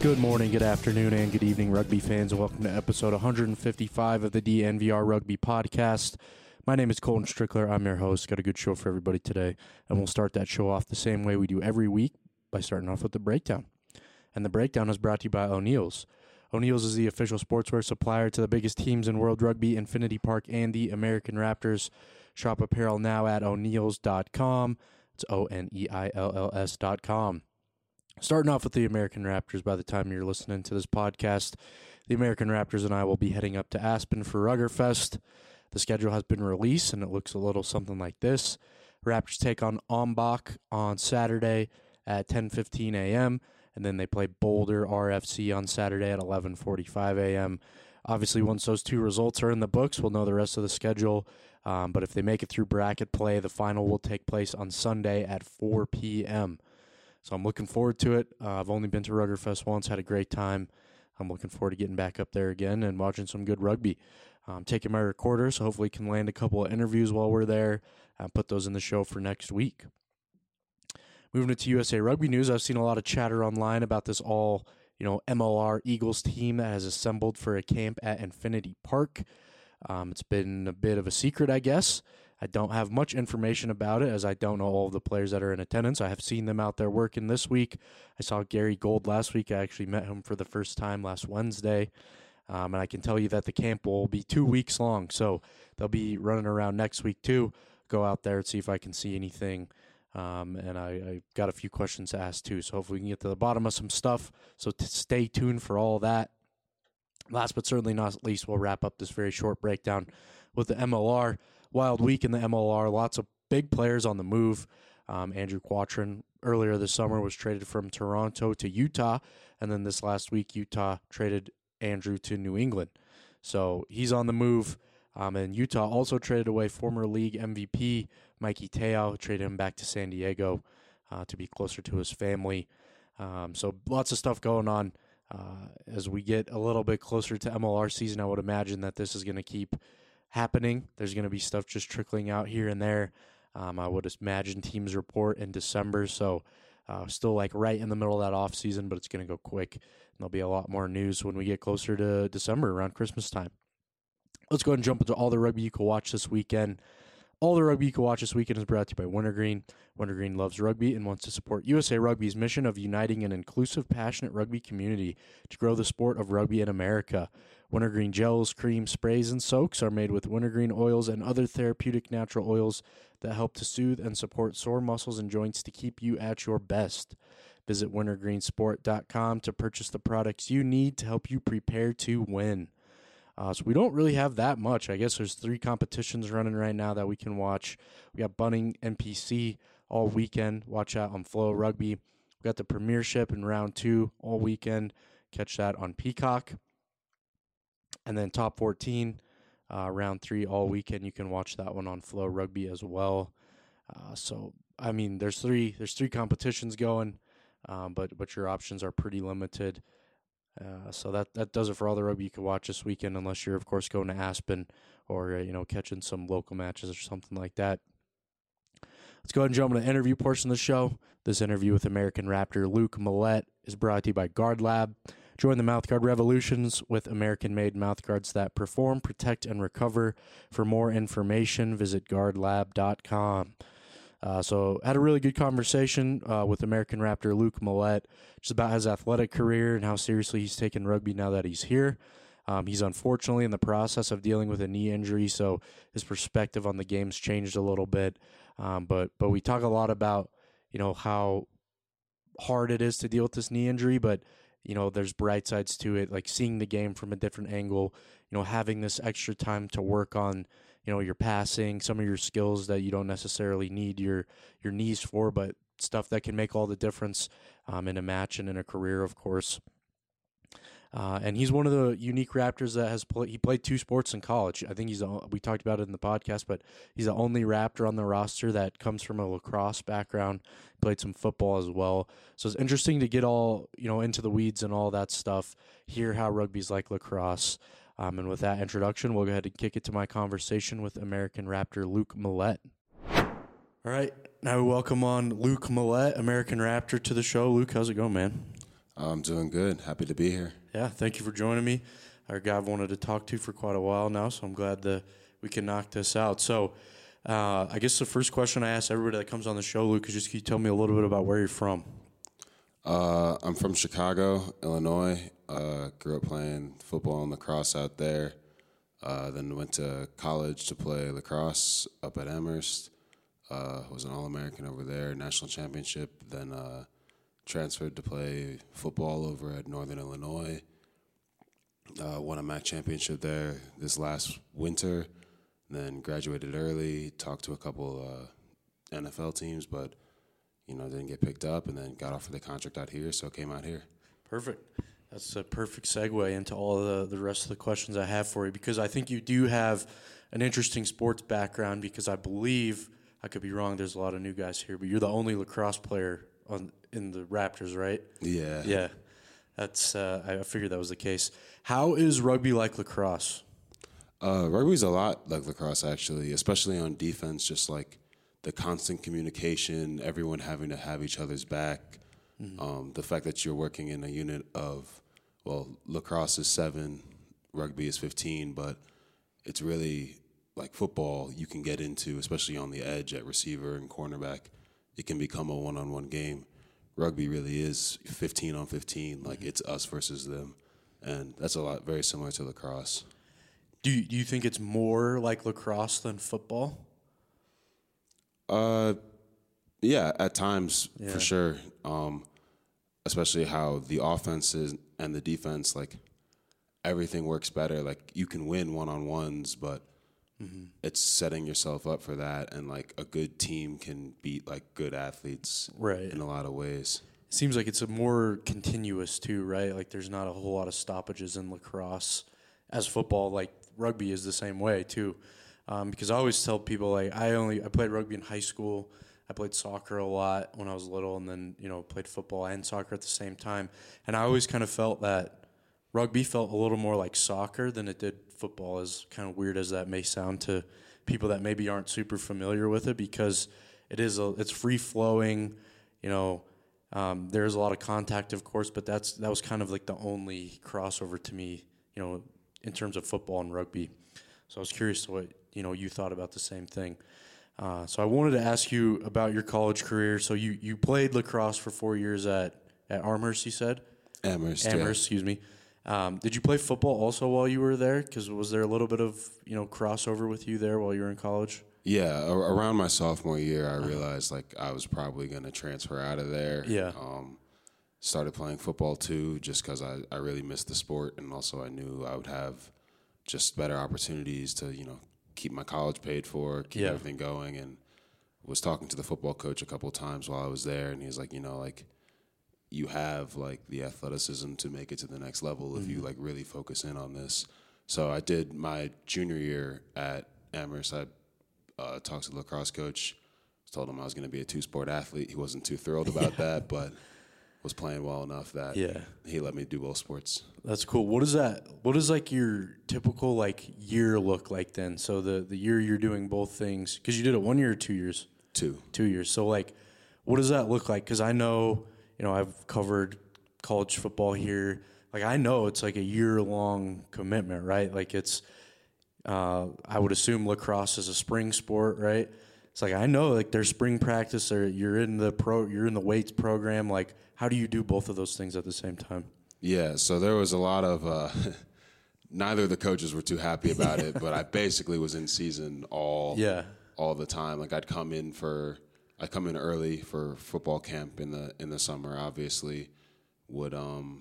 Good morning, good afternoon, and good evening, rugby fans. Welcome to episode 155 of the DNVR Rugby Podcast. My name is Colton Strickler. I'm your host. Got a good show for everybody today, and we'll start that show off the same way we do every week by starting off with the breakdown. And the breakdown is brought to you by O'Neill's. O'Neill's is the official sportswear supplier to the biggest teams in World Rugby, Infinity Park, and the American Raptors. Shop apparel now at O'Neills.com. It's O'Neills.com. Starting off with the American Raptors, by the time you're listening to this podcast, the American Raptors and I will be heading up to Aspen for Ruggerfest. The schedule has been released, and it looks a little something like this. Raptors take on Ombach on Saturday at 10:15 a.m., and then they play Boulder RFC on Saturday at 11:45 a.m. Obviously, once those two results are in the books, we'll know the rest of the schedule. But if they make it through bracket play, the final will take place on Sunday at 4 p.m., So I'm looking forward to it. I've only been to Ruggerfest once, had a great time. I'm looking forward to getting back up there again and watching some good rugby. I'm taking my recorder, so hopefully can land a couple of interviews while we're there. Put those in the show for next week. Moving into USA Rugby news, I've seen a lot of chatter online about this MLR Eagles team that has assembled for a camp at Infinity Park. It's been a bit of a secret, I guess. I don't have much information about it, as I don't know all of the players that are in attendance. I have seen them out there working this week. I saw Gary Gold last week. I actually met him for the first time last Wednesday. And I can tell you that the camp will be 2 weeks long. So they'll be running around next week too. Go out there and see if I can see anything. And I got a few questions to ask too. So hopefully we can get to the bottom of some stuff. So stay tuned for all that. Last but certainly not least, we'll wrap up this very short breakdown with the MLR. Wild week in the MLR. Lots of big players on the move. Andrew Quattrin earlier this summer was traded from Toronto to Utah. And then this last week, Utah traded Andrew to New England. So he's on the move. And Utah also traded away former league MVP Mikey Te'o, traded him back to San Diego to be closer to his family. So lots of stuff going on. As we get a little bit closer to MLR season, I would imagine that this is going to keep happening. There's going to be stuff just trickling out here and there. I would imagine teams report in December, so still like right in the middle of that off season, but it's going to go quick. And there'll be a lot more news when we get closer to December, around Christmas time. Let's go ahead and jump into all the rugby you can watch this weekend. All the rugby you can watch this weekend is brought to you by Wintergreen. Wintergreen loves rugby and wants to support USA Rugby's mission of uniting an inclusive, passionate rugby community to grow the sport of rugby in America. Wintergreen gels, creams, sprays, and soaks are made with wintergreen oils and other therapeutic natural oils that help to soothe and support sore muscles and joints to keep you at your best. Visit wintergreensport.com to purchase the products you need to help you prepare to win. So we don't really have that much. I guess there's 3 competitions running right now that we can watch. We got Bunning NPC all weekend. Watch out on Flow Rugby. We got the Premiership in round 2 all weekend. Catch that on Peacock. And then Top 14, round 3 all weekend. You can watch that one on Flow Rugby as well. So I mean, there's three competitions going, but your options are pretty limited. So that does it for all the rugby you can watch this weekend, unless you're, of course, going to Aspen or, catching some local matches or something like that. Let's go ahead and jump into the interview portion of the show. This interview with American Raptor Luke Millette is brought to you by Guard Lab. Join the mouthguard revolutions with American-made mouthguards that perform, protect, and recover. For more information, visit guardlab.com. So had a really good conversation with American Raptor Luke Millette just about his athletic career and how seriously he's taken rugby now that he's here. He's unfortunately in the process of dealing with a knee injury, so his perspective on the game's changed a little bit. But we talk a lot about, how hard it is to deal with this knee injury, but, there's bright sides to it, like seeing the game from a different angle, having this extra time to work on, your passing, some of your skills that you don't necessarily need your knees for, but stuff that can make all the difference in a match and in a career, of course. And he's one of the unique Raptors that has he played 2 sports in college. I think we talked about it in the podcast, but he's the only Raptor on the roster that comes from a lacrosse background, played some football as well. So it's interesting to get all, into the weeds and all that stuff, hear how rugby's like lacrosse. And with that introduction, we'll go ahead and kick it to my conversation with American Raptor Luke Millette. All right, now we welcome on Luke Millette, American Raptor, to the show. Luke, how's it going, man? I'm doing good. Happy to be here. Yeah, thank you for joining me. Our guy I've wanted to talk to for quite a while now, so I'm glad that we can knock this out. So, I guess the first question I ask everybody that comes on the show, Luke, is just can you tell me a little bit about where you're from? I'm from Chicago, Illinois. Grew up playing football and lacrosse out there. Then went to college to play lacrosse up at Amherst. Was an All-American over there, national championship. Then transferred to play football over at Northern Illinois. Won a MAC championship there this last winter. Then graduated early, talked to a couple NFL teams, but didn't get picked up, and then got offered the contract out here, so came out here. Perfect. That's a perfect segue into all the rest of the questions I have for you, because I think you do have an interesting sports background, because I believe, I could be wrong, there's a lot of new guys here, but you're the only lacrosse player in the Raptors, right? Yeah. Yeah. That's I figured that was the case. How is rugby like lacrosse? Rugby's a lot like lacrosse, actually, especially on defense, just like the constant communication, everyone having to have each other's back. The fact that you're working in a unit of, lacrosse is 7, rugby is 15, but it's really like football you can get into, especially on the edge at receiver and cornerback. It can become a one-on-one game. Rugby really is 15 on 15, like it's us versus them. And that's a lot very similar to lacrosse. Do you think it's more like lacrosse than football? Yeah, at times, for sure. Especially how the offenses and the defense, like, everything works better. Like, you can win one-on-ones, but it's setting yourself up for that. And, like, a good team can beat, like, good athletes in a lot of ways. It seems like it's a more continuous, too, right? Like, there's not a whole lot of stoppages in lacrosse as football. Like, rugby is the same way, too. Because I always tell people, like, I played rugby in high school. I played soccer a lot when I was little, and then, played football and soccer at the same time. And I always kind of felt that rugby felt a little more like soccer than it did football, as kind of weird as that may sound to people that maybe aren't super familiar with it, because it's free-flowing, there's a lot of contact, of course, but that was kind of like the only crossover to me, in terms of football and rugby. So I was curious to what, you thought about the same thing. So I wanted to ask you about your college career. So you played lacrosse for 4 years at Amherst, you said? Amherst, excuse me. Did you play football also while you were there? Because was there a little bit of, crossover with you there while you were in college? Yeah, around my sophomore year, I realized, like, I was probably going to transfer out of there. Yeah. Started playing football, too, just because I really missed the sport, and also I knew I would have just better opportunities to, keep my college paid for, keep everything going, and was talking to the football coach a couple of times while I was there, and he was like, you have, like, the athleticism to make it to the next level if you, like, really focus in on this. So I did my junior year at Amherst. I talked to the lacrosse coach, told him I was going to be a two-sport athlete. He wasn't too thrilled about that, but was playing well enough that he let me do both sports. That's cool. What does like your typical like year look like then? So the year you're doing both things, because you did it 1 year or 2 years? 2 years. So like, what does that look like? Because I know, I've covered college football here. Like, I know it's like a year-long commitment, right? Like, it's I would assume lacrosse is a spring sport, right? It's like, I know, like, there's spring practice, or you're in the weights program. Like, how do you do both of those things at the same time? Yeah, so there was a lot of neither of the coaches were too happy about it, but I basically was in season all the time. Like, I'd come in early for football camp in the summer, obviously. Would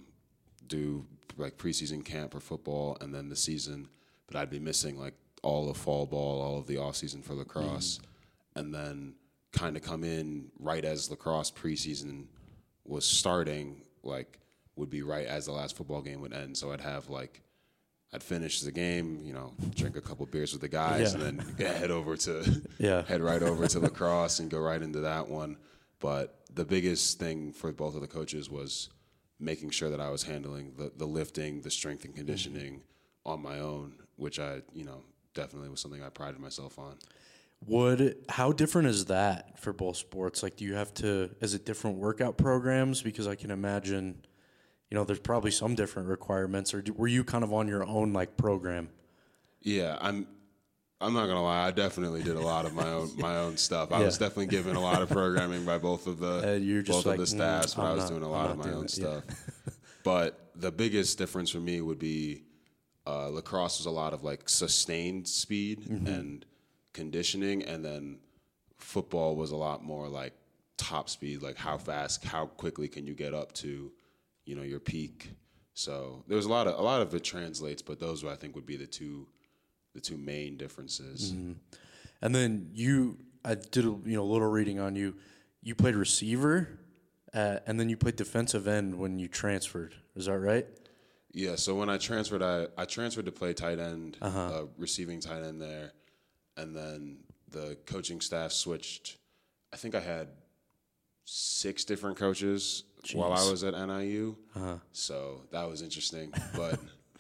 do like preseason camp for football, and then the season, but I'd be missing like all of fall ball, all of the off season for lacrosse, and then kind of come in right as lacrosse preseason was starting, like would be right as the last football game would end. So I'd finish the game, drink a couple beers with the guys, and then head right over to lacrosse and go right into that one. But the biggest thing for both of the coaches was making sure that I was handling the lifting, the strength and conditioning on my own, which I, definitely was something I prided myself on. How different is that for both sports? Like, is it different workout programs? Because I can imagine, there's probably some different requirements, or were you kind of on your own like program? Yeah, I'm not gonna lie. I definitely did a lot of my own stuff. I was definitely given a lot of programming by both of the staffs when I was doing a lot of my own stuff. But the biggest difference for me would be lacrosse was a lot of like sustained speed and conditioning, and then football was a lot more like top speed, like how quickly can you get up to, your peak. So there was a lot of it translates, but those I think would be the two main differences. Mm-hmm. And then I did a little reading on you. You played receiver, and then you played defensive end when you transferred. Is that right? Yeah. So when I transferred, I transferred to play tight end, receiving tight end there, and then the coaching staff switched. I think I had 6 different coaches while I was at NIU. So that was interesting. But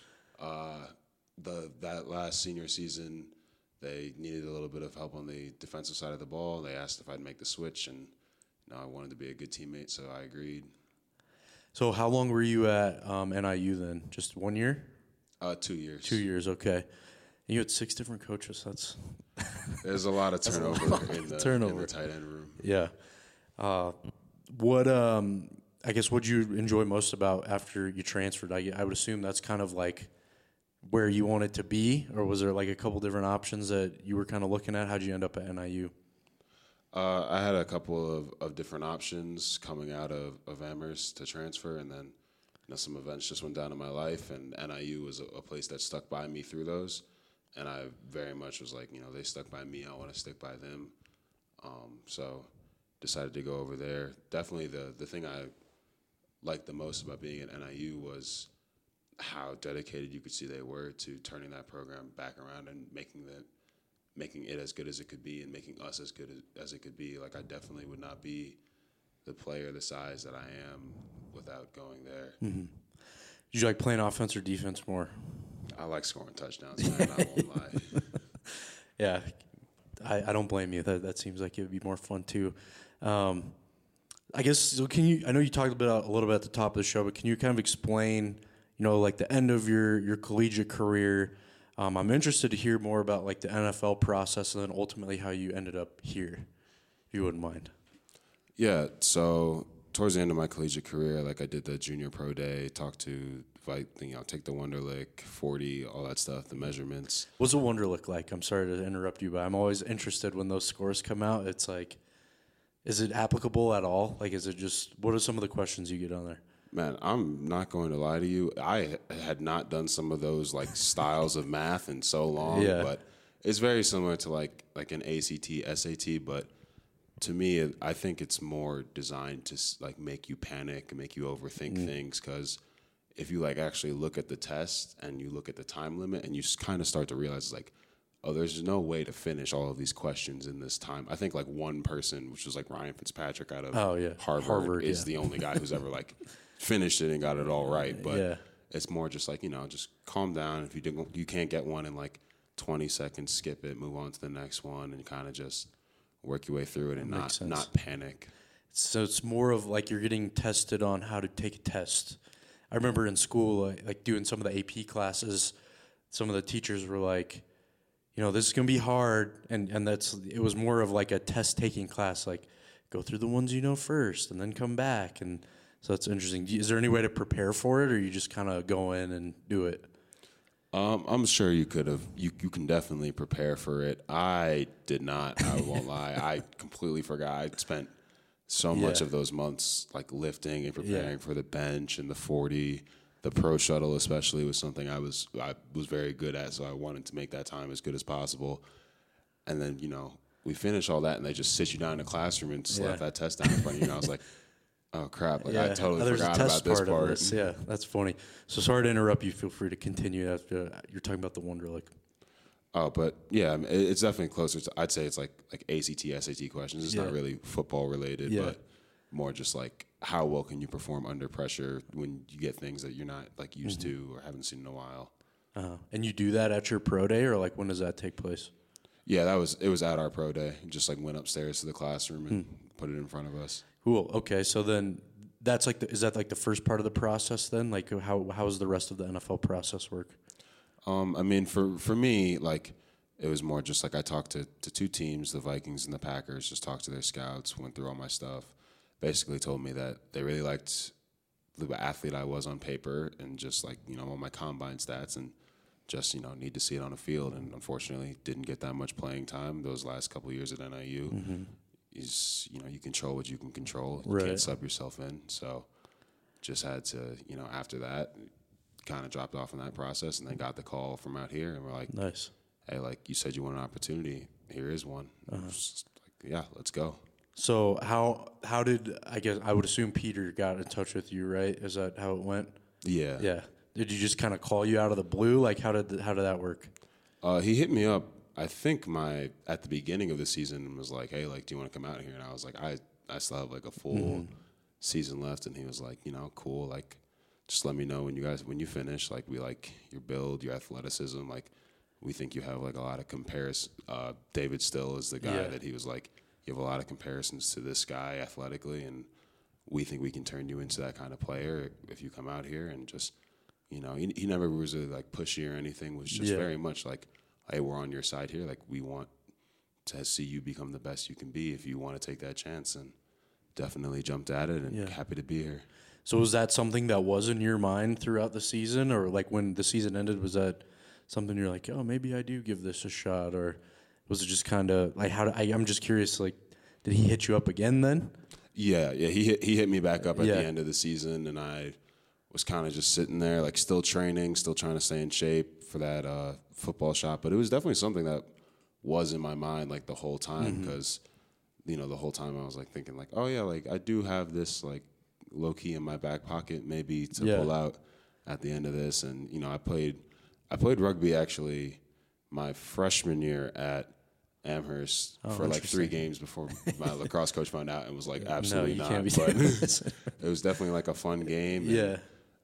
that last senior season, they needed a little bit of help on the defensive side of the ball. They asked if I'd make the switch, and I wanted to be a good teammate, so I agreed. So how long were you at NIU then? Just 1 year? 2 years. 2 years, okay. And you had 6 different coaches. There's a lot of turnover in the tight end room. Yeah. I guess what'd you enjoy most about after you transferred? I would assume that's kind of like where you wanted to be, or was there like a couple different options that you were kind of looking at? How'd you end up at NIU? I had a couple of different options coming out of Amherst to transfer, and then some events just went down in my life, and NIU was a place that stuck by me through those, and I very much was like, they stuck by me, I want to stick by them, so decided to go over there. Definitely the thing I liked the most about being at NIU was how dedicated you could see they were to turning that program back around and making it as good as it could be, and making us as good as it could be. Like, I definitely would not be the player the size that I am without going there. Mm-hmm. Did you like playing offense or defense more? I like scoring touchdowns, man. I won't lie. Yeah, I don't blame you. That seems like it would be more fun too. I guess, so I know you talked a little bit at the top of the show, but can you kind of explain, like the end of your collegiate career? I'm interested to hear more about like the NFL process, and then ultimately how you ended up here, if you wouldn't mind. Yeah, so towards the end of my collegiate career, like I did the junior pro day, take the Wonderlic, 40, all that stuff, the measurements. What's a Wonderlic like? I'm sorry to interrupt you, but I'm always interested when those scores come out. It's like, is it applicable at all? Like, is it just, what are some of the questions you get on there? Man, I'm not going to lie to you. I had not done some of those like styles of math in so long, but it's very similar to like an ACT, SAT, but to me, I think it's more designed to like make you panic and make you overthink things, because if you like actually look at the test and you look at the time limit and you kind of start to realize like, oh, there's no way to finish all of these questions in this time. I think like one person, which was like Ryan Fitzpatrick out of Harvard is the only guy who's ever like finished it and got it all right. But it's more just like, just calm down. If you can't get one in like 20 seconds, skip it, move on to the next one, and kind of just work your way through it and not panic. So it's more of like you're getting tested on how to take a test. I remember in school, like doing some of the AP classes, some of the teachers were like, this is going to be hard. And it was more of like a test taking class, like go through the ones first and then come back. And so it's interesting. Is there any way to prepare for it, or you just kind of go in and do it? I'm sure you could have. You can definitely prepare for it. I did not. I won't lie. I completely forgot. I spent so much of those months like lifting and preparing for the bench and the 40. The pro shuttle especially was something I was very good at, so I wanted to make that time as good as possible. And then, we finish all that and they just sit you down in a classroom and slap that test down in front of you. And I was like, oh, crap. Like, I totally forgot about this part. Yeah, that's funny. So sorry to interrupt you. Feel free to continue after you're talking about the Wonderlic. Oh, but yeah, it's definitely closer to, I'd say it's like ACT, SAT questions. It's not really football related, but more just like how well can you perform under pressure when you get things that you're not like used to or haven't seen in a while. And you do that at your pro day, or like when does that take place? Yeah, it was at our pro day. Just like went upstairs to the classroom and put it in front of us. Cool. Okay, so then that's like is that like the first part of the process then? Like how does the rest of the NFL process work? I mean, for me, like it was more just like I talked to two teams, the Vikings and the Packers. Just talked to their scouts, went through all my stuff. Basically, told me that they really liked the athlete I was on paper, and just like all my combine stats, and just need to see it on the field. And unfortunately, didn't get that much playing time those last couple of years at NIU. Mm-hmm. Is you control what you can control. You can't sub yourself in. So just had to after that kind of dropped off in that process, and then got the call from out here, and we're like, nice. Hey, like you said, you want an opportunity. Here is one. Just like, yeah, let's go. So how did I would assume Peter got in touch with you, right? Is that how it went? Yeah. Yeah. Did you just kind of call you out of the blue? Like how did that work? He hit me up. I think at the beginning of the season was like, hey, like, do you want to come out here? And I was like, I still have like a full season left. And he was like, cool. Like, just let me know when you finish. Like, we like your build, your athleticism. Like, we think you have like a lot of comparison. David Still is the guy that he was like, you have a lot of comparisons to this guy athletically, and we think we can turn you into that kind of player if you come out here. And just, he never was really like pushy or anything. Was just very much like, hey, we're on your side here. Like, we want to see you become the best you can be if you want to take that chance. And definitely jumped at it, and happy to be here. So was that something that was in your mind throughout the season, or like when the season ended, was that something you're like, oh, maybe I do give this a shot, or was it just kind of like I'm just curious, like, did he hit you up again then? Yeah, he hit me back up at the end of the season, and I was kind of just sitting there, like still training, still trying to stay in shape for that football shot. But it was definitely something that was in my mind like the whole time, because the whole time I was like thinking like, oh yeah, like I do have this like low key in my back pocket maybe to pull out at the end of this. And I played rugby actually my freshman year at Amherst for like 3 games before my lacrosse coach found out and was like, absolutely not. But it was definitely like a fun game. Yeah.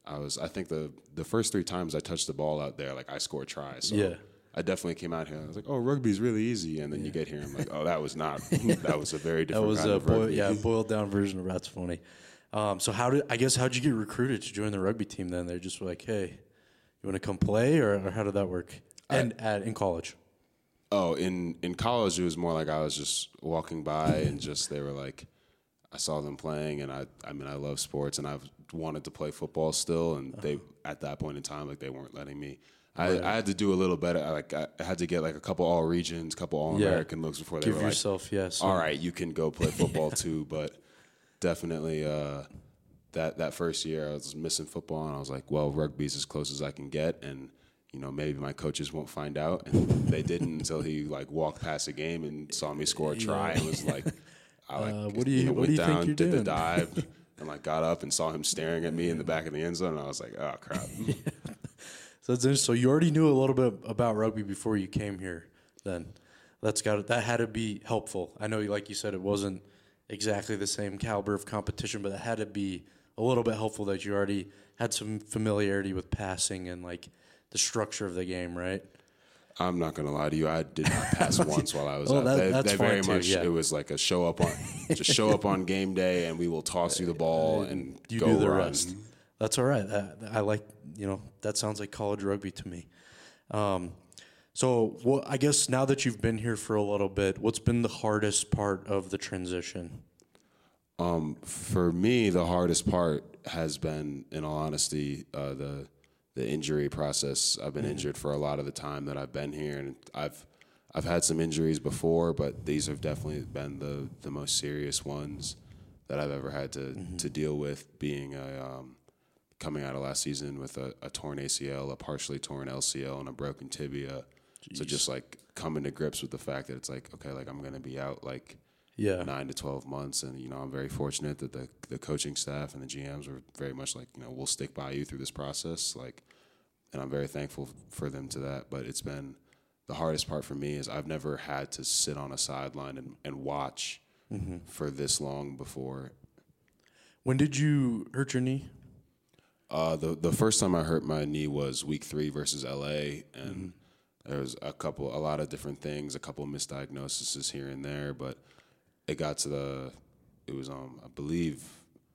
I think the first 3 times I touched the ball out there, like I scored tries. So I definitely came out here and I was like, oh, rugby's really easy. And then you get here and I'm like, oh, that was not. That was a very different kind of rugby. Boiled down version of that's funny. So how'd you get recruited to join the rugby team then? They just were like, hey, you want to come play, or how did that work? And in college? Oh, in college, it was more like I was just walking by and just they were like, I saw them playing, and I love sports, and I've wanted to play football still, and they at that point in time, like they weren't letting me. I had to do a little better. I had to get like a couple all regions, couple all American looks before they give were yourself like, all right, you can go play football too. But definitely that first year I was missing football, and I was like, well, rugby's as close as I can get, and maybe my coaches won't find out. And they didn't until he like walked past a game and saw me score a try and was like, what do you went down, think you're did doing? the dive, and like got up and saw him staring at me in the back of the end zone, and I was like, oh crap. So that's interesting. So you already knew a little bit about rugby before you came here. Then that had to be helpful. I know, like you said, it wasn't exactly the same caliber of competition, but it had to be a little bit helpful that you already had some familiarity with passing and like the structure of the game, right? I'm not gonna lie to you. I did not pass once while I was out. That's they very too, much. Yeah. It was like a show up on game day, and we will toss you the ball and you go do the run. rest. That's all right. I like that sounds like college rugby to me. So I guess now that you've been here for a little bit, what's been the hardest part of the transition? For me, the hardest part has been, in all honesty, the injury process. I've been injured for a lot of the time that I've been here, and I've had some injuries before, but these have definitely been the most serious ones that I've ever had to deal with. Being coming out of last season with a torn ACL, a partially torn LCL, and a broken tibia. Jeez. So just like coming to grips with the fact that it's like, okay, like I'm going to be out like 9 to 12 months. And, I'm very fortunate that the coaching staff and the GMs were very much like, we'll stick by you through this process. Like, and I'm very thankful for them to that. But it's been the hardest part for me is I've never had to sit on a sideline and watch for this long before. When did you hurt your knee? The first time I hurt my knee was week 3 versus LA, and there was a lot of different things, a couple of misdiagnoses here and there, but it got to it was I believe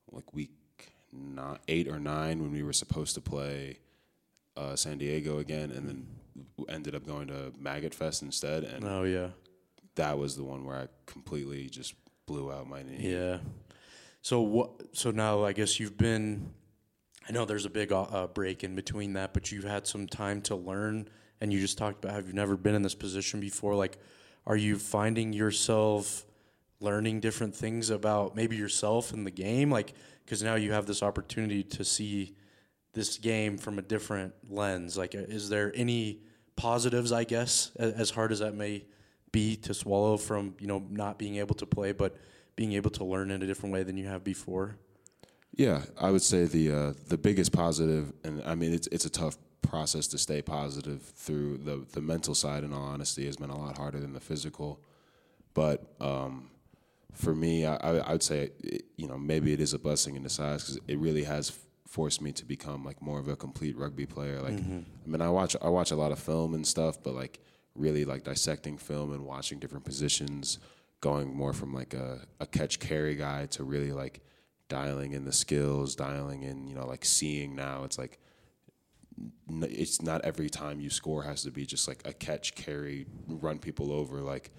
like week 8 or 9 when we were supposed to play San Diego again, and then ended up going to Maggot Fest instead. And that was the one where I completely just blew out my knee. Yeah. So now I guess you've been. I know there's a big break in between that, but you've had some time to learn, and you just talked about how you've never been in this position before. Like, are you finding yourself learning different things about maybe yourself and the game? Like, because now you have this opportunity to see this game from a different lens. Like, is there any positives, I guess, as hard as that may be to swallow from, not being able to play, but being able to learn in a different way than you have before? Yeah, I would say the biggest positive, and I mean it's a tough process to stay positive through the mental side. In all honesty, has been a lot harder than the physical. But for me, I would say maybe it is a blessing in disguise because it really has forced me to become like more of a complete rugby player. Like, I mean, I watch a lot of film and stuff, but like really like dissecting film and watching different positions, going more from like a catch carry guy to really like dialing in the skills, dialing in, like seeing now. It's like, it's not every time you score has to be just like a catch, carry, run people over, like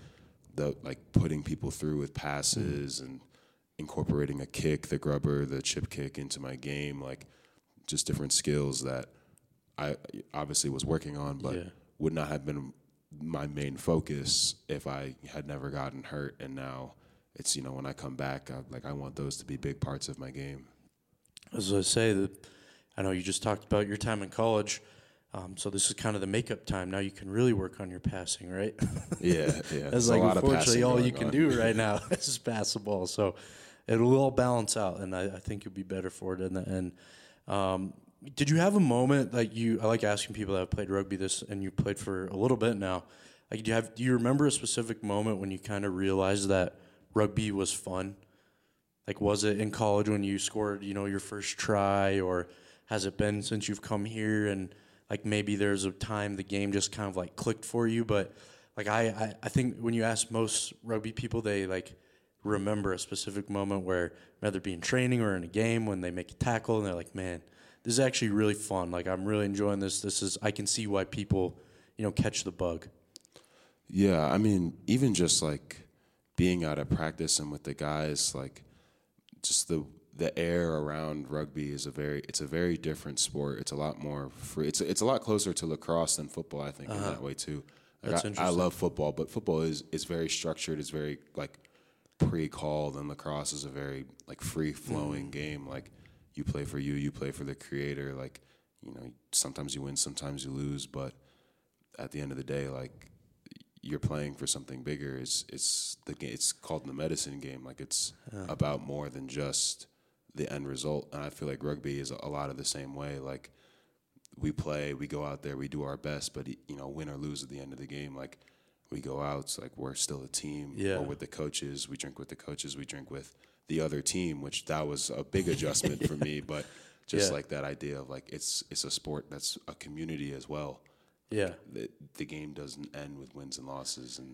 putting people through with passes and incorporating a kick, the grubber, the chip kick into my game, like just different skills that I obviously was working on, but would not have been my main focus if I had never gotten hurt. And now it's, when I come back, I want those to be big parts of my game. As I say, I know you just talked about your time in college, so this is kind of the makeup time. Now you can really work on your passing, right? Yeah. That's like, unfortunately, all you can do right now is pass the ball. So it'll all balance out, and I think you'll be better for it in the end. Did you have a moment I like asking people that have played rugby this, and you played for a little bit now. Like, do you remember a specific moment when you kind of realized that rugby was fun? Like, was it in college when you scored, your first try, or has it been since you've come here? And like maybe there's a time the game just kind of like clicked for you. But like I think when you ask most rugby people, they like remember a specific moment where whether it be in training or in a game when they make a tackle and they're like, man, this is actually really fun. Like, I'm really enjoying this. I can see why people, catch the bug. Yeah, I mean, even just like being out at practice and with the guys, like just the air around rugby is a very different sport. It's a lot more free. It's a lot closer to lacrosse than football, I think, in that way too. Like, That's interesting. I love football, but football is very structured. It's very like pre-called, and lacrosse is a very like free-flowing game. Like, you play for you play for the creator. Like, sometimes you win, sometimes you lose, but at the end of the day, like, you're playing for something bigger. It's called the medicine game. Like, it's about more than just the end result. And I feel like rugby is a lot of the same way. Like, we play, we go out there, we do our best, but win or lose at the end of the game, like, we go out, it's like we're still a team. Yeah. Or with the coaches, we drink with the coaches, we drink with the other team, which that was a big adjustment for me. But just like that idea of like it's a sport that's a community as well. Yeah. The game doesn't end with wins and losses, and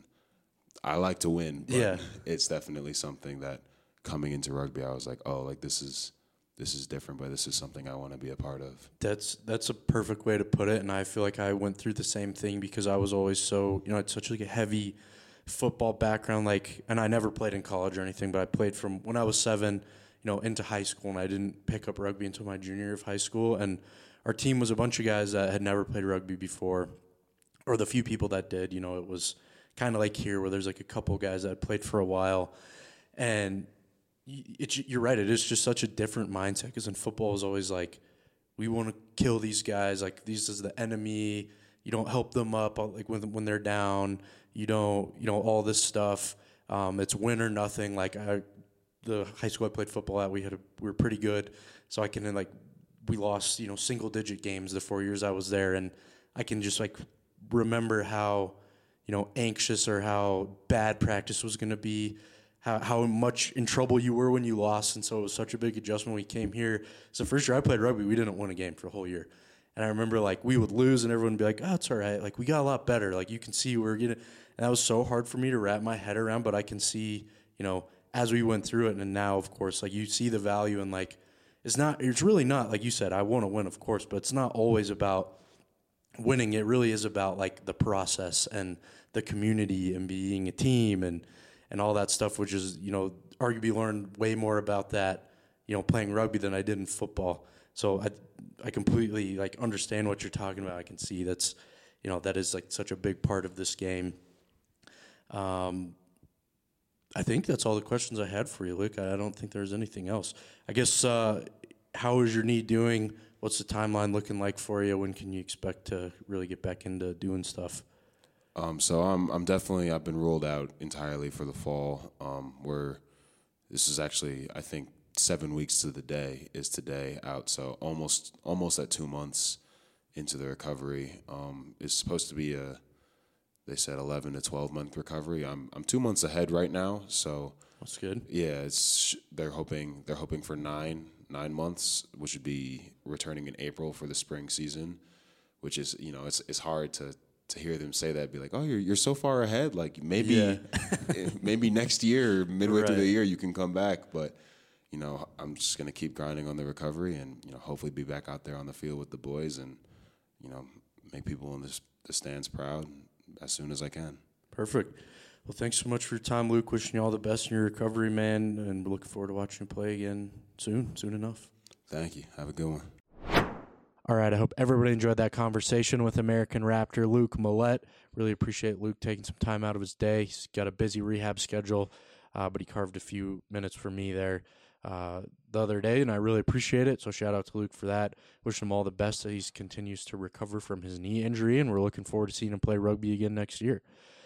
I like to win, but it's definitely something that coming into rugby, I was like, oh, like this is different, but this is something I want to be a part of. That's a perfect way to put it, and I feel like I went through the same thing because I was always so, I had such like a heavy football background, like, and I never played in college or anything, but I played from when I was 7, into high school, and I didn't pick up rugby until my junior year of high school, and our team was a bunch of guys that had never played rugby before, or the few people that did, it was kind of like here where there's like a couple guys that had played for a while, and you're right, it is just such a different mindset, because in football is always like, we want to kill these guys, like this is the enemy, you don't help them up like when they're down, you don't, all this stuff, it's win or nothing. Like the high school I played football at, we were pretty good, so I can we lost single digit games the 4 years I was there, and I can just like remember how anxious or how bad practice was going to be, how much in trouble you were when you lost, and so it was such a big adjustment when we came here. So first year I played rugby, we didn't win a game for a whole year, and I remember like we would lose and everyone would be like, oh, it's all right, like we got a lot better, like you can see we're getting, and that was so hard for me to wrap my head around, but I can see as we went through it, and now, of course, like you see the value in like it's really not like you said. I want to win, of course, but it's not always about winning. It really is about like the process and the community and being a team and all that stuff, which is, arguably learned way more about that, playing rugby than I did in football. So I completely like understand what you're talking about. I can see that is like such a big part of this game. I think that's all the questions I had for you, Luke. I don't think there's anything else. I guess, how is your knee doing? What's the timeline looking like for you? When can you expect to really get back into doing stuff? So I've been ruled out entirely for the fall. This is actually, I think, 7 weeks to the day is today out. So almost at 2 months into the recovery. It's supposed to be they said 11 to 12 month recovery. I'm 2 months ahead right now. So that's good. Yeah, they're hoping for nine months, which would be returning in April for the spring season, which is, it's hard to hear them say that, be like, oh, you're so far ahead. Like maybe maybe next year, midway through the year, you can come back. But, I'm just going to keep grinding on the recovery and, hopefully be back out there on the field with the boys and, make people in the stands proud as soon as I can. Perfect. Well, thanks so much for your time, Luke. Wishing you all the best in your recovery, man, and looking forward to watching you play again soon enough. Thank you. Have a good one. All right, I hope everybody enjoyed that conversation with American Raptor Luke Millette. Really appreciate Luke taking some time out of his day. He's got a busy rehab schedule, but he carved a few minutes for me there the other day, and I really appreciate it. So shout out to Luke for that. Wish him all the best as he continues to recover from his knee injury, and we're looking forward to seeing him play rugby again next year.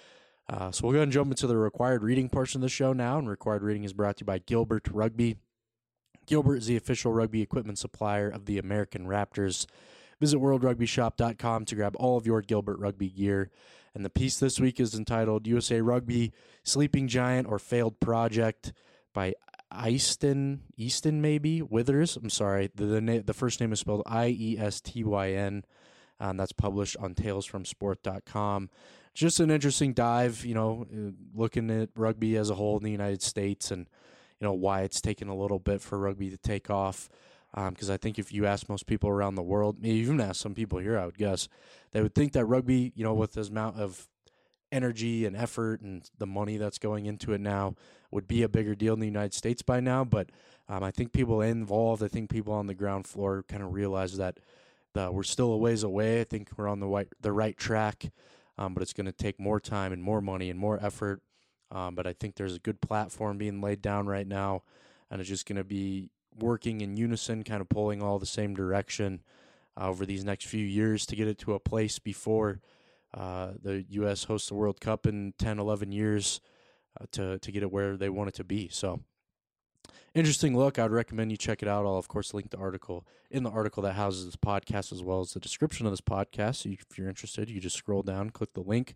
So we'll go ahead and jump into the required reading portion of the show now, and required reading is brought to you by Gilbert Rugby. Gilbert is the official rugby equipment supplier of the American Raptors. Visit worldrugbyshop.com to grab all of your Gilbert Rugby gear. And the piece this week is entitled USA Rugby, Sleeping Giant or Failed Project by Easton maybe? Withers. I'm sorry. The first name is spelled Iestyn. That's published on talesfromsport.com. Just an interesting dive, looking at rugby as a whole in the United States and, why it's taken a little bit for rugby to take off. Because I think if you ask most people around the world, maybe even ask some people here, I would guess, they would think that rugby, with this amount of energy and effort and the money that's going into it now would be a bigger deal in the United States by now. But I think people involved, I think people on the ground floor kind of realize that we're still a ways away. I think we're on the right track, but it's going to take more time and more money and more effort. But I think there's a good platform being laid down right now, and it's just going to be working in unison, kind of pulling all the same direction over these next few years to get it to a place before the U.S. hosts the World Cup in 10, 11 years to get it where they want it to be. So interesting look. I would recommend you check it out. I'll, of course, link the article in the article that houses this podcast as well as the description of this podcast. So if you're interested, you just scroll down, click the link.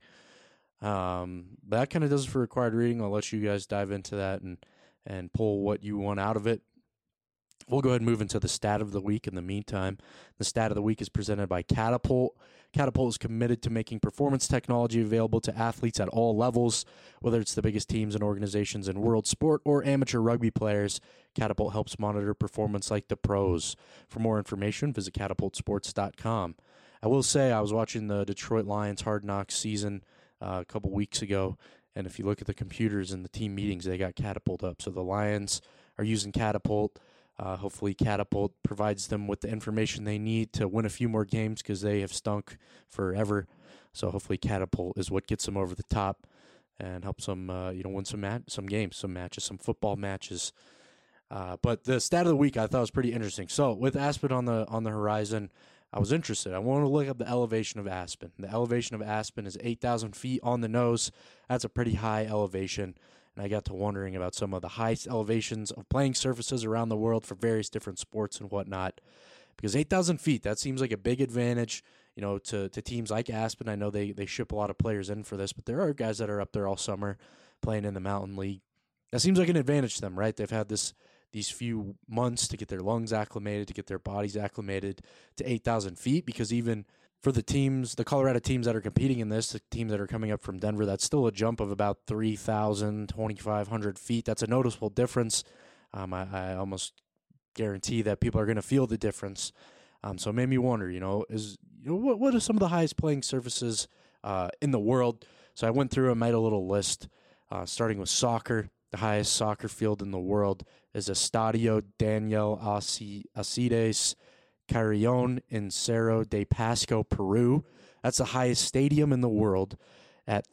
That kind of does it for required reading. I'll let you guys dive into that and pull what you want out of it. We'll go ahead and move into the stat of the week in the meantime. The stat of the week is presented by Catapult. Catapult is committed to making performance technology available to athletes at all levels, whether it's the biggest teams and organizations in world sport or amateur rugby players. Catapult helps monitor performance like the pros. For more information, visit catapultsports.com. I will say I was watching the Detroit Lions Hard Knocks season a couple weeks ago, and if you look at the computers in the team meetings, they got Catapult up. So the Lions are using Catapult. Hopefully Catapult provides them with the information they need to win a few more games because they have stunk forever. So hopefully Catapult is what gets them over the top and helps them, win some games, some matches, some football matches. But the stat of the week I thought was pretty interesting. So with Aspen on the horizon, I was interested. I wanted to look up the elevation of Aspen. The elevation of Aspen is 8,000 feet on the nose. That's a pretty high elevation. And I got to wondering about some of the highest elevations of playing surfaces around the world for various different sports and whatnot. Because 8,000 feet, that seems like a big advantage, to teams like Aspen. I know they ship a lot of players in for this, but there are guys that are up there all summer playing in the Mountain League. That seems like an advantage to them, right? They've had these few months to get their lungs acclimated, to get their bodies acclimated to 8,000 feet, because even for the teams, the Colorado teams that are competing in this, the teams that are coming up from Denver, that's still a jump of about 3,000, 2,500 feet. That's a noticeable difference. I almost guarantee that people are going to feel the difference. So it made me wonder, what are some of the highest playing surfaces in the world? So I went through and made a little list, starting with soccer. The highest soccer field in the world is Estadio Daniel Alcides Carrion in Cerro de Pasco, Peru. That's the highest stadium in the world at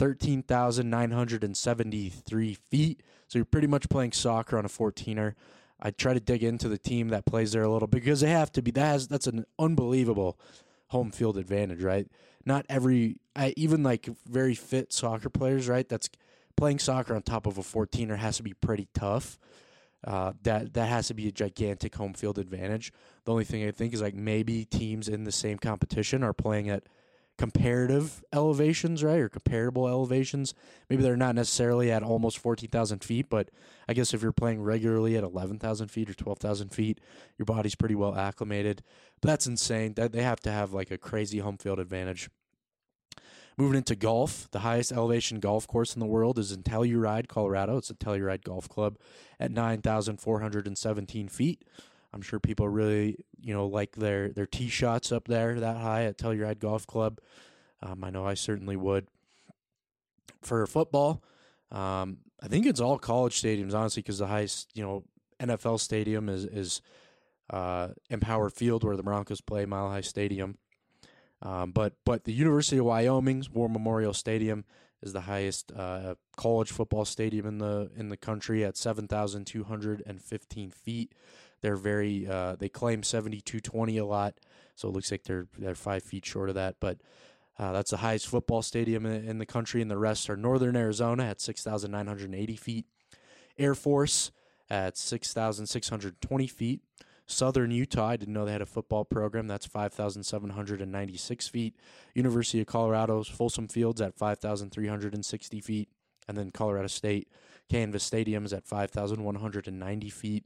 13,973 feet. So you're pretty much playing soccer on a 14er. I try to dig into the team that plays there a little bit because they have to be. That's an unbelievable home field advantage, right? Not even like very fit soccer players, right? That's playing soccer on top of a 14er has to be pretty tough. That has to be a gigantic home field advantage. The only thing I think is like maybe teams in the same competition are playing at comparative elevations, right, or comparable elevations. Maybe they're not necessarily at almost 14,000 feet, but I guess if you're playing regularly at 11,000 feet or 12,000 feet, your body's pretty well acclimated. But that's insane. They have to have like a crazy home field advantage. Moving into golf, the highest elevation golf course in the world is in Telluride, Colorado. It's a Telluride Golf Club at 9,417 feet. I'm sure people really, like their tee shots up there that high at Telluride Golf Club. I know I certainly would. For football, I think it's all college stadiums, honestly, because the highest, NFL stadium is Empower Field, where the Broncos play, Mile High Stadium. But the University of Wyoming's War Memorial Stadium is the highest college football stadium in the country at 7,215 feet. They're they claim 7,220 a lot, so it looks like they're 5 feet short of that. But that's the highest football stadium in the country, and the rest are Northern Arizona at 6,980 feet, Air Force at 6,620 feet. Southern Utah, I didn't know they had a football program. That's 5,796 feet. University of Colorado's Folsom Fields at 5,360 feet. And then Colorado State Canvas Stadium is at 5,190 feet.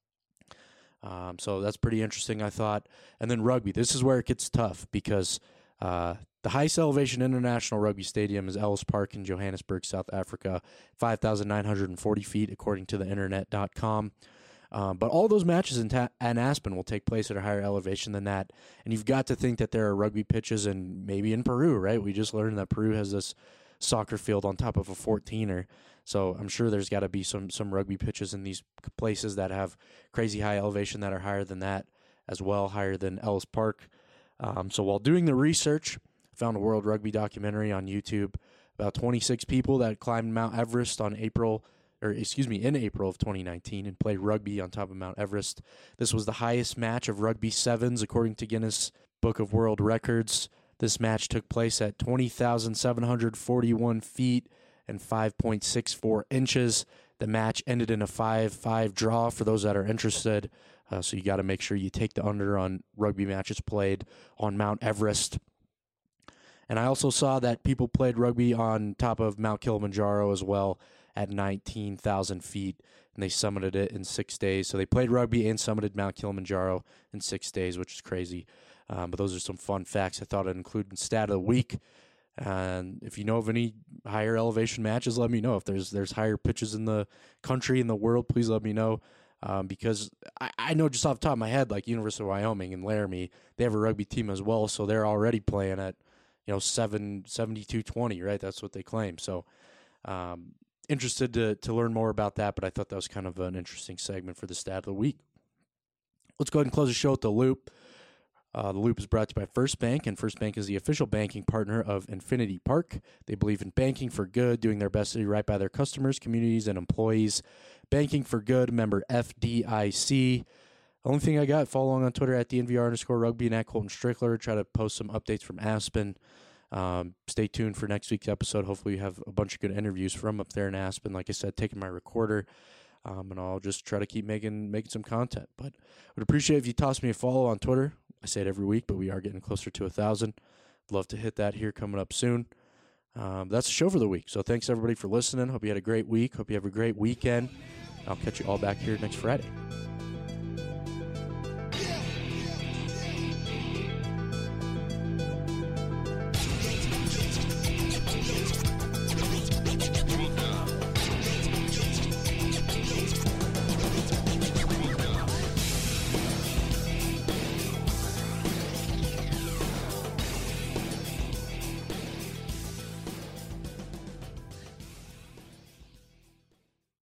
So that's pretty interesting, I thought. And then rugby. This is where it gets tough because the highest elevation international rugby stadium is Ellis Park in Johannesburg, South Africa, 5,940 feet, according to the internet.com. But all those matches in Aspen will take place at a higher elevation than that. And you've got to think that there are rugby pitches maybe in Peru, right? We just learned that Peru has this soccer field on top of a 14er. So I'm sure there's got to be some rugby pitches in these places that have crazy high elevation that are higher than that as well, higher than Ellis Park. So while doing the research, I found a World Rugby documentary on YouTube about 26 people that climbed Mount Everest in April of 2019 and played rugby on top of Mount Everest. This was the highest match of rugby sevens according to Guinness Book of World Records. This match took place at 20,741 feet and 5.64 inches. The match ended in a 5-5 draw for those that are interested. So you got to make sure you take the under on rugby matches played on Mount Everest. And I also saw that people played rugby on top of Mount Kilimanjaro as well at 19,000 feet, and they summited it in 6 days. So they played rugby and summited Mount Kilimanjaro in 6 days, which is crazy. But those are some fun facts I thought I'd include in Stat of the Week. And if you know of any higher elevation matches, let me know. If there's higher pitches in the country, in the world, please let me know. Because I know just off the top of my head, like University of Wyoming and Laramie, they have a rugby team as well, so they're already playing at 7,220, right? That's what they claim. So interested to learn more about that, but I thought that was kind of an interesting segment for the Stat of the Week. Let's go ahead and close the show with The Loop. The Loop is brought to you by First Bank, and First Bank is the official banking partner of Infinity Park. They believe in banking for good, doing their best to do right by their customers, communities, and employees. Banking for good, member FDIC. Only thing I got, follow along on Twitter at @DNVR_rugby and at Colton Strickler. Try to post some updates from Aspen. Stay tuned for next week's episode. Hopefully we have a bunch of good interviews from up there in Aspen. Like I said, taking my recorder, and I'll just try to keep making some content. But I would appreciate if you toss me a follow on Twitter. I say it every week, but we are getting closer to 1,000. Love to hit that here coming up soon. That's the show for the week. So thanks everybody for listening. Hope you had a great week. Hope you have a great weekend. I'll catch you all back here next Friday.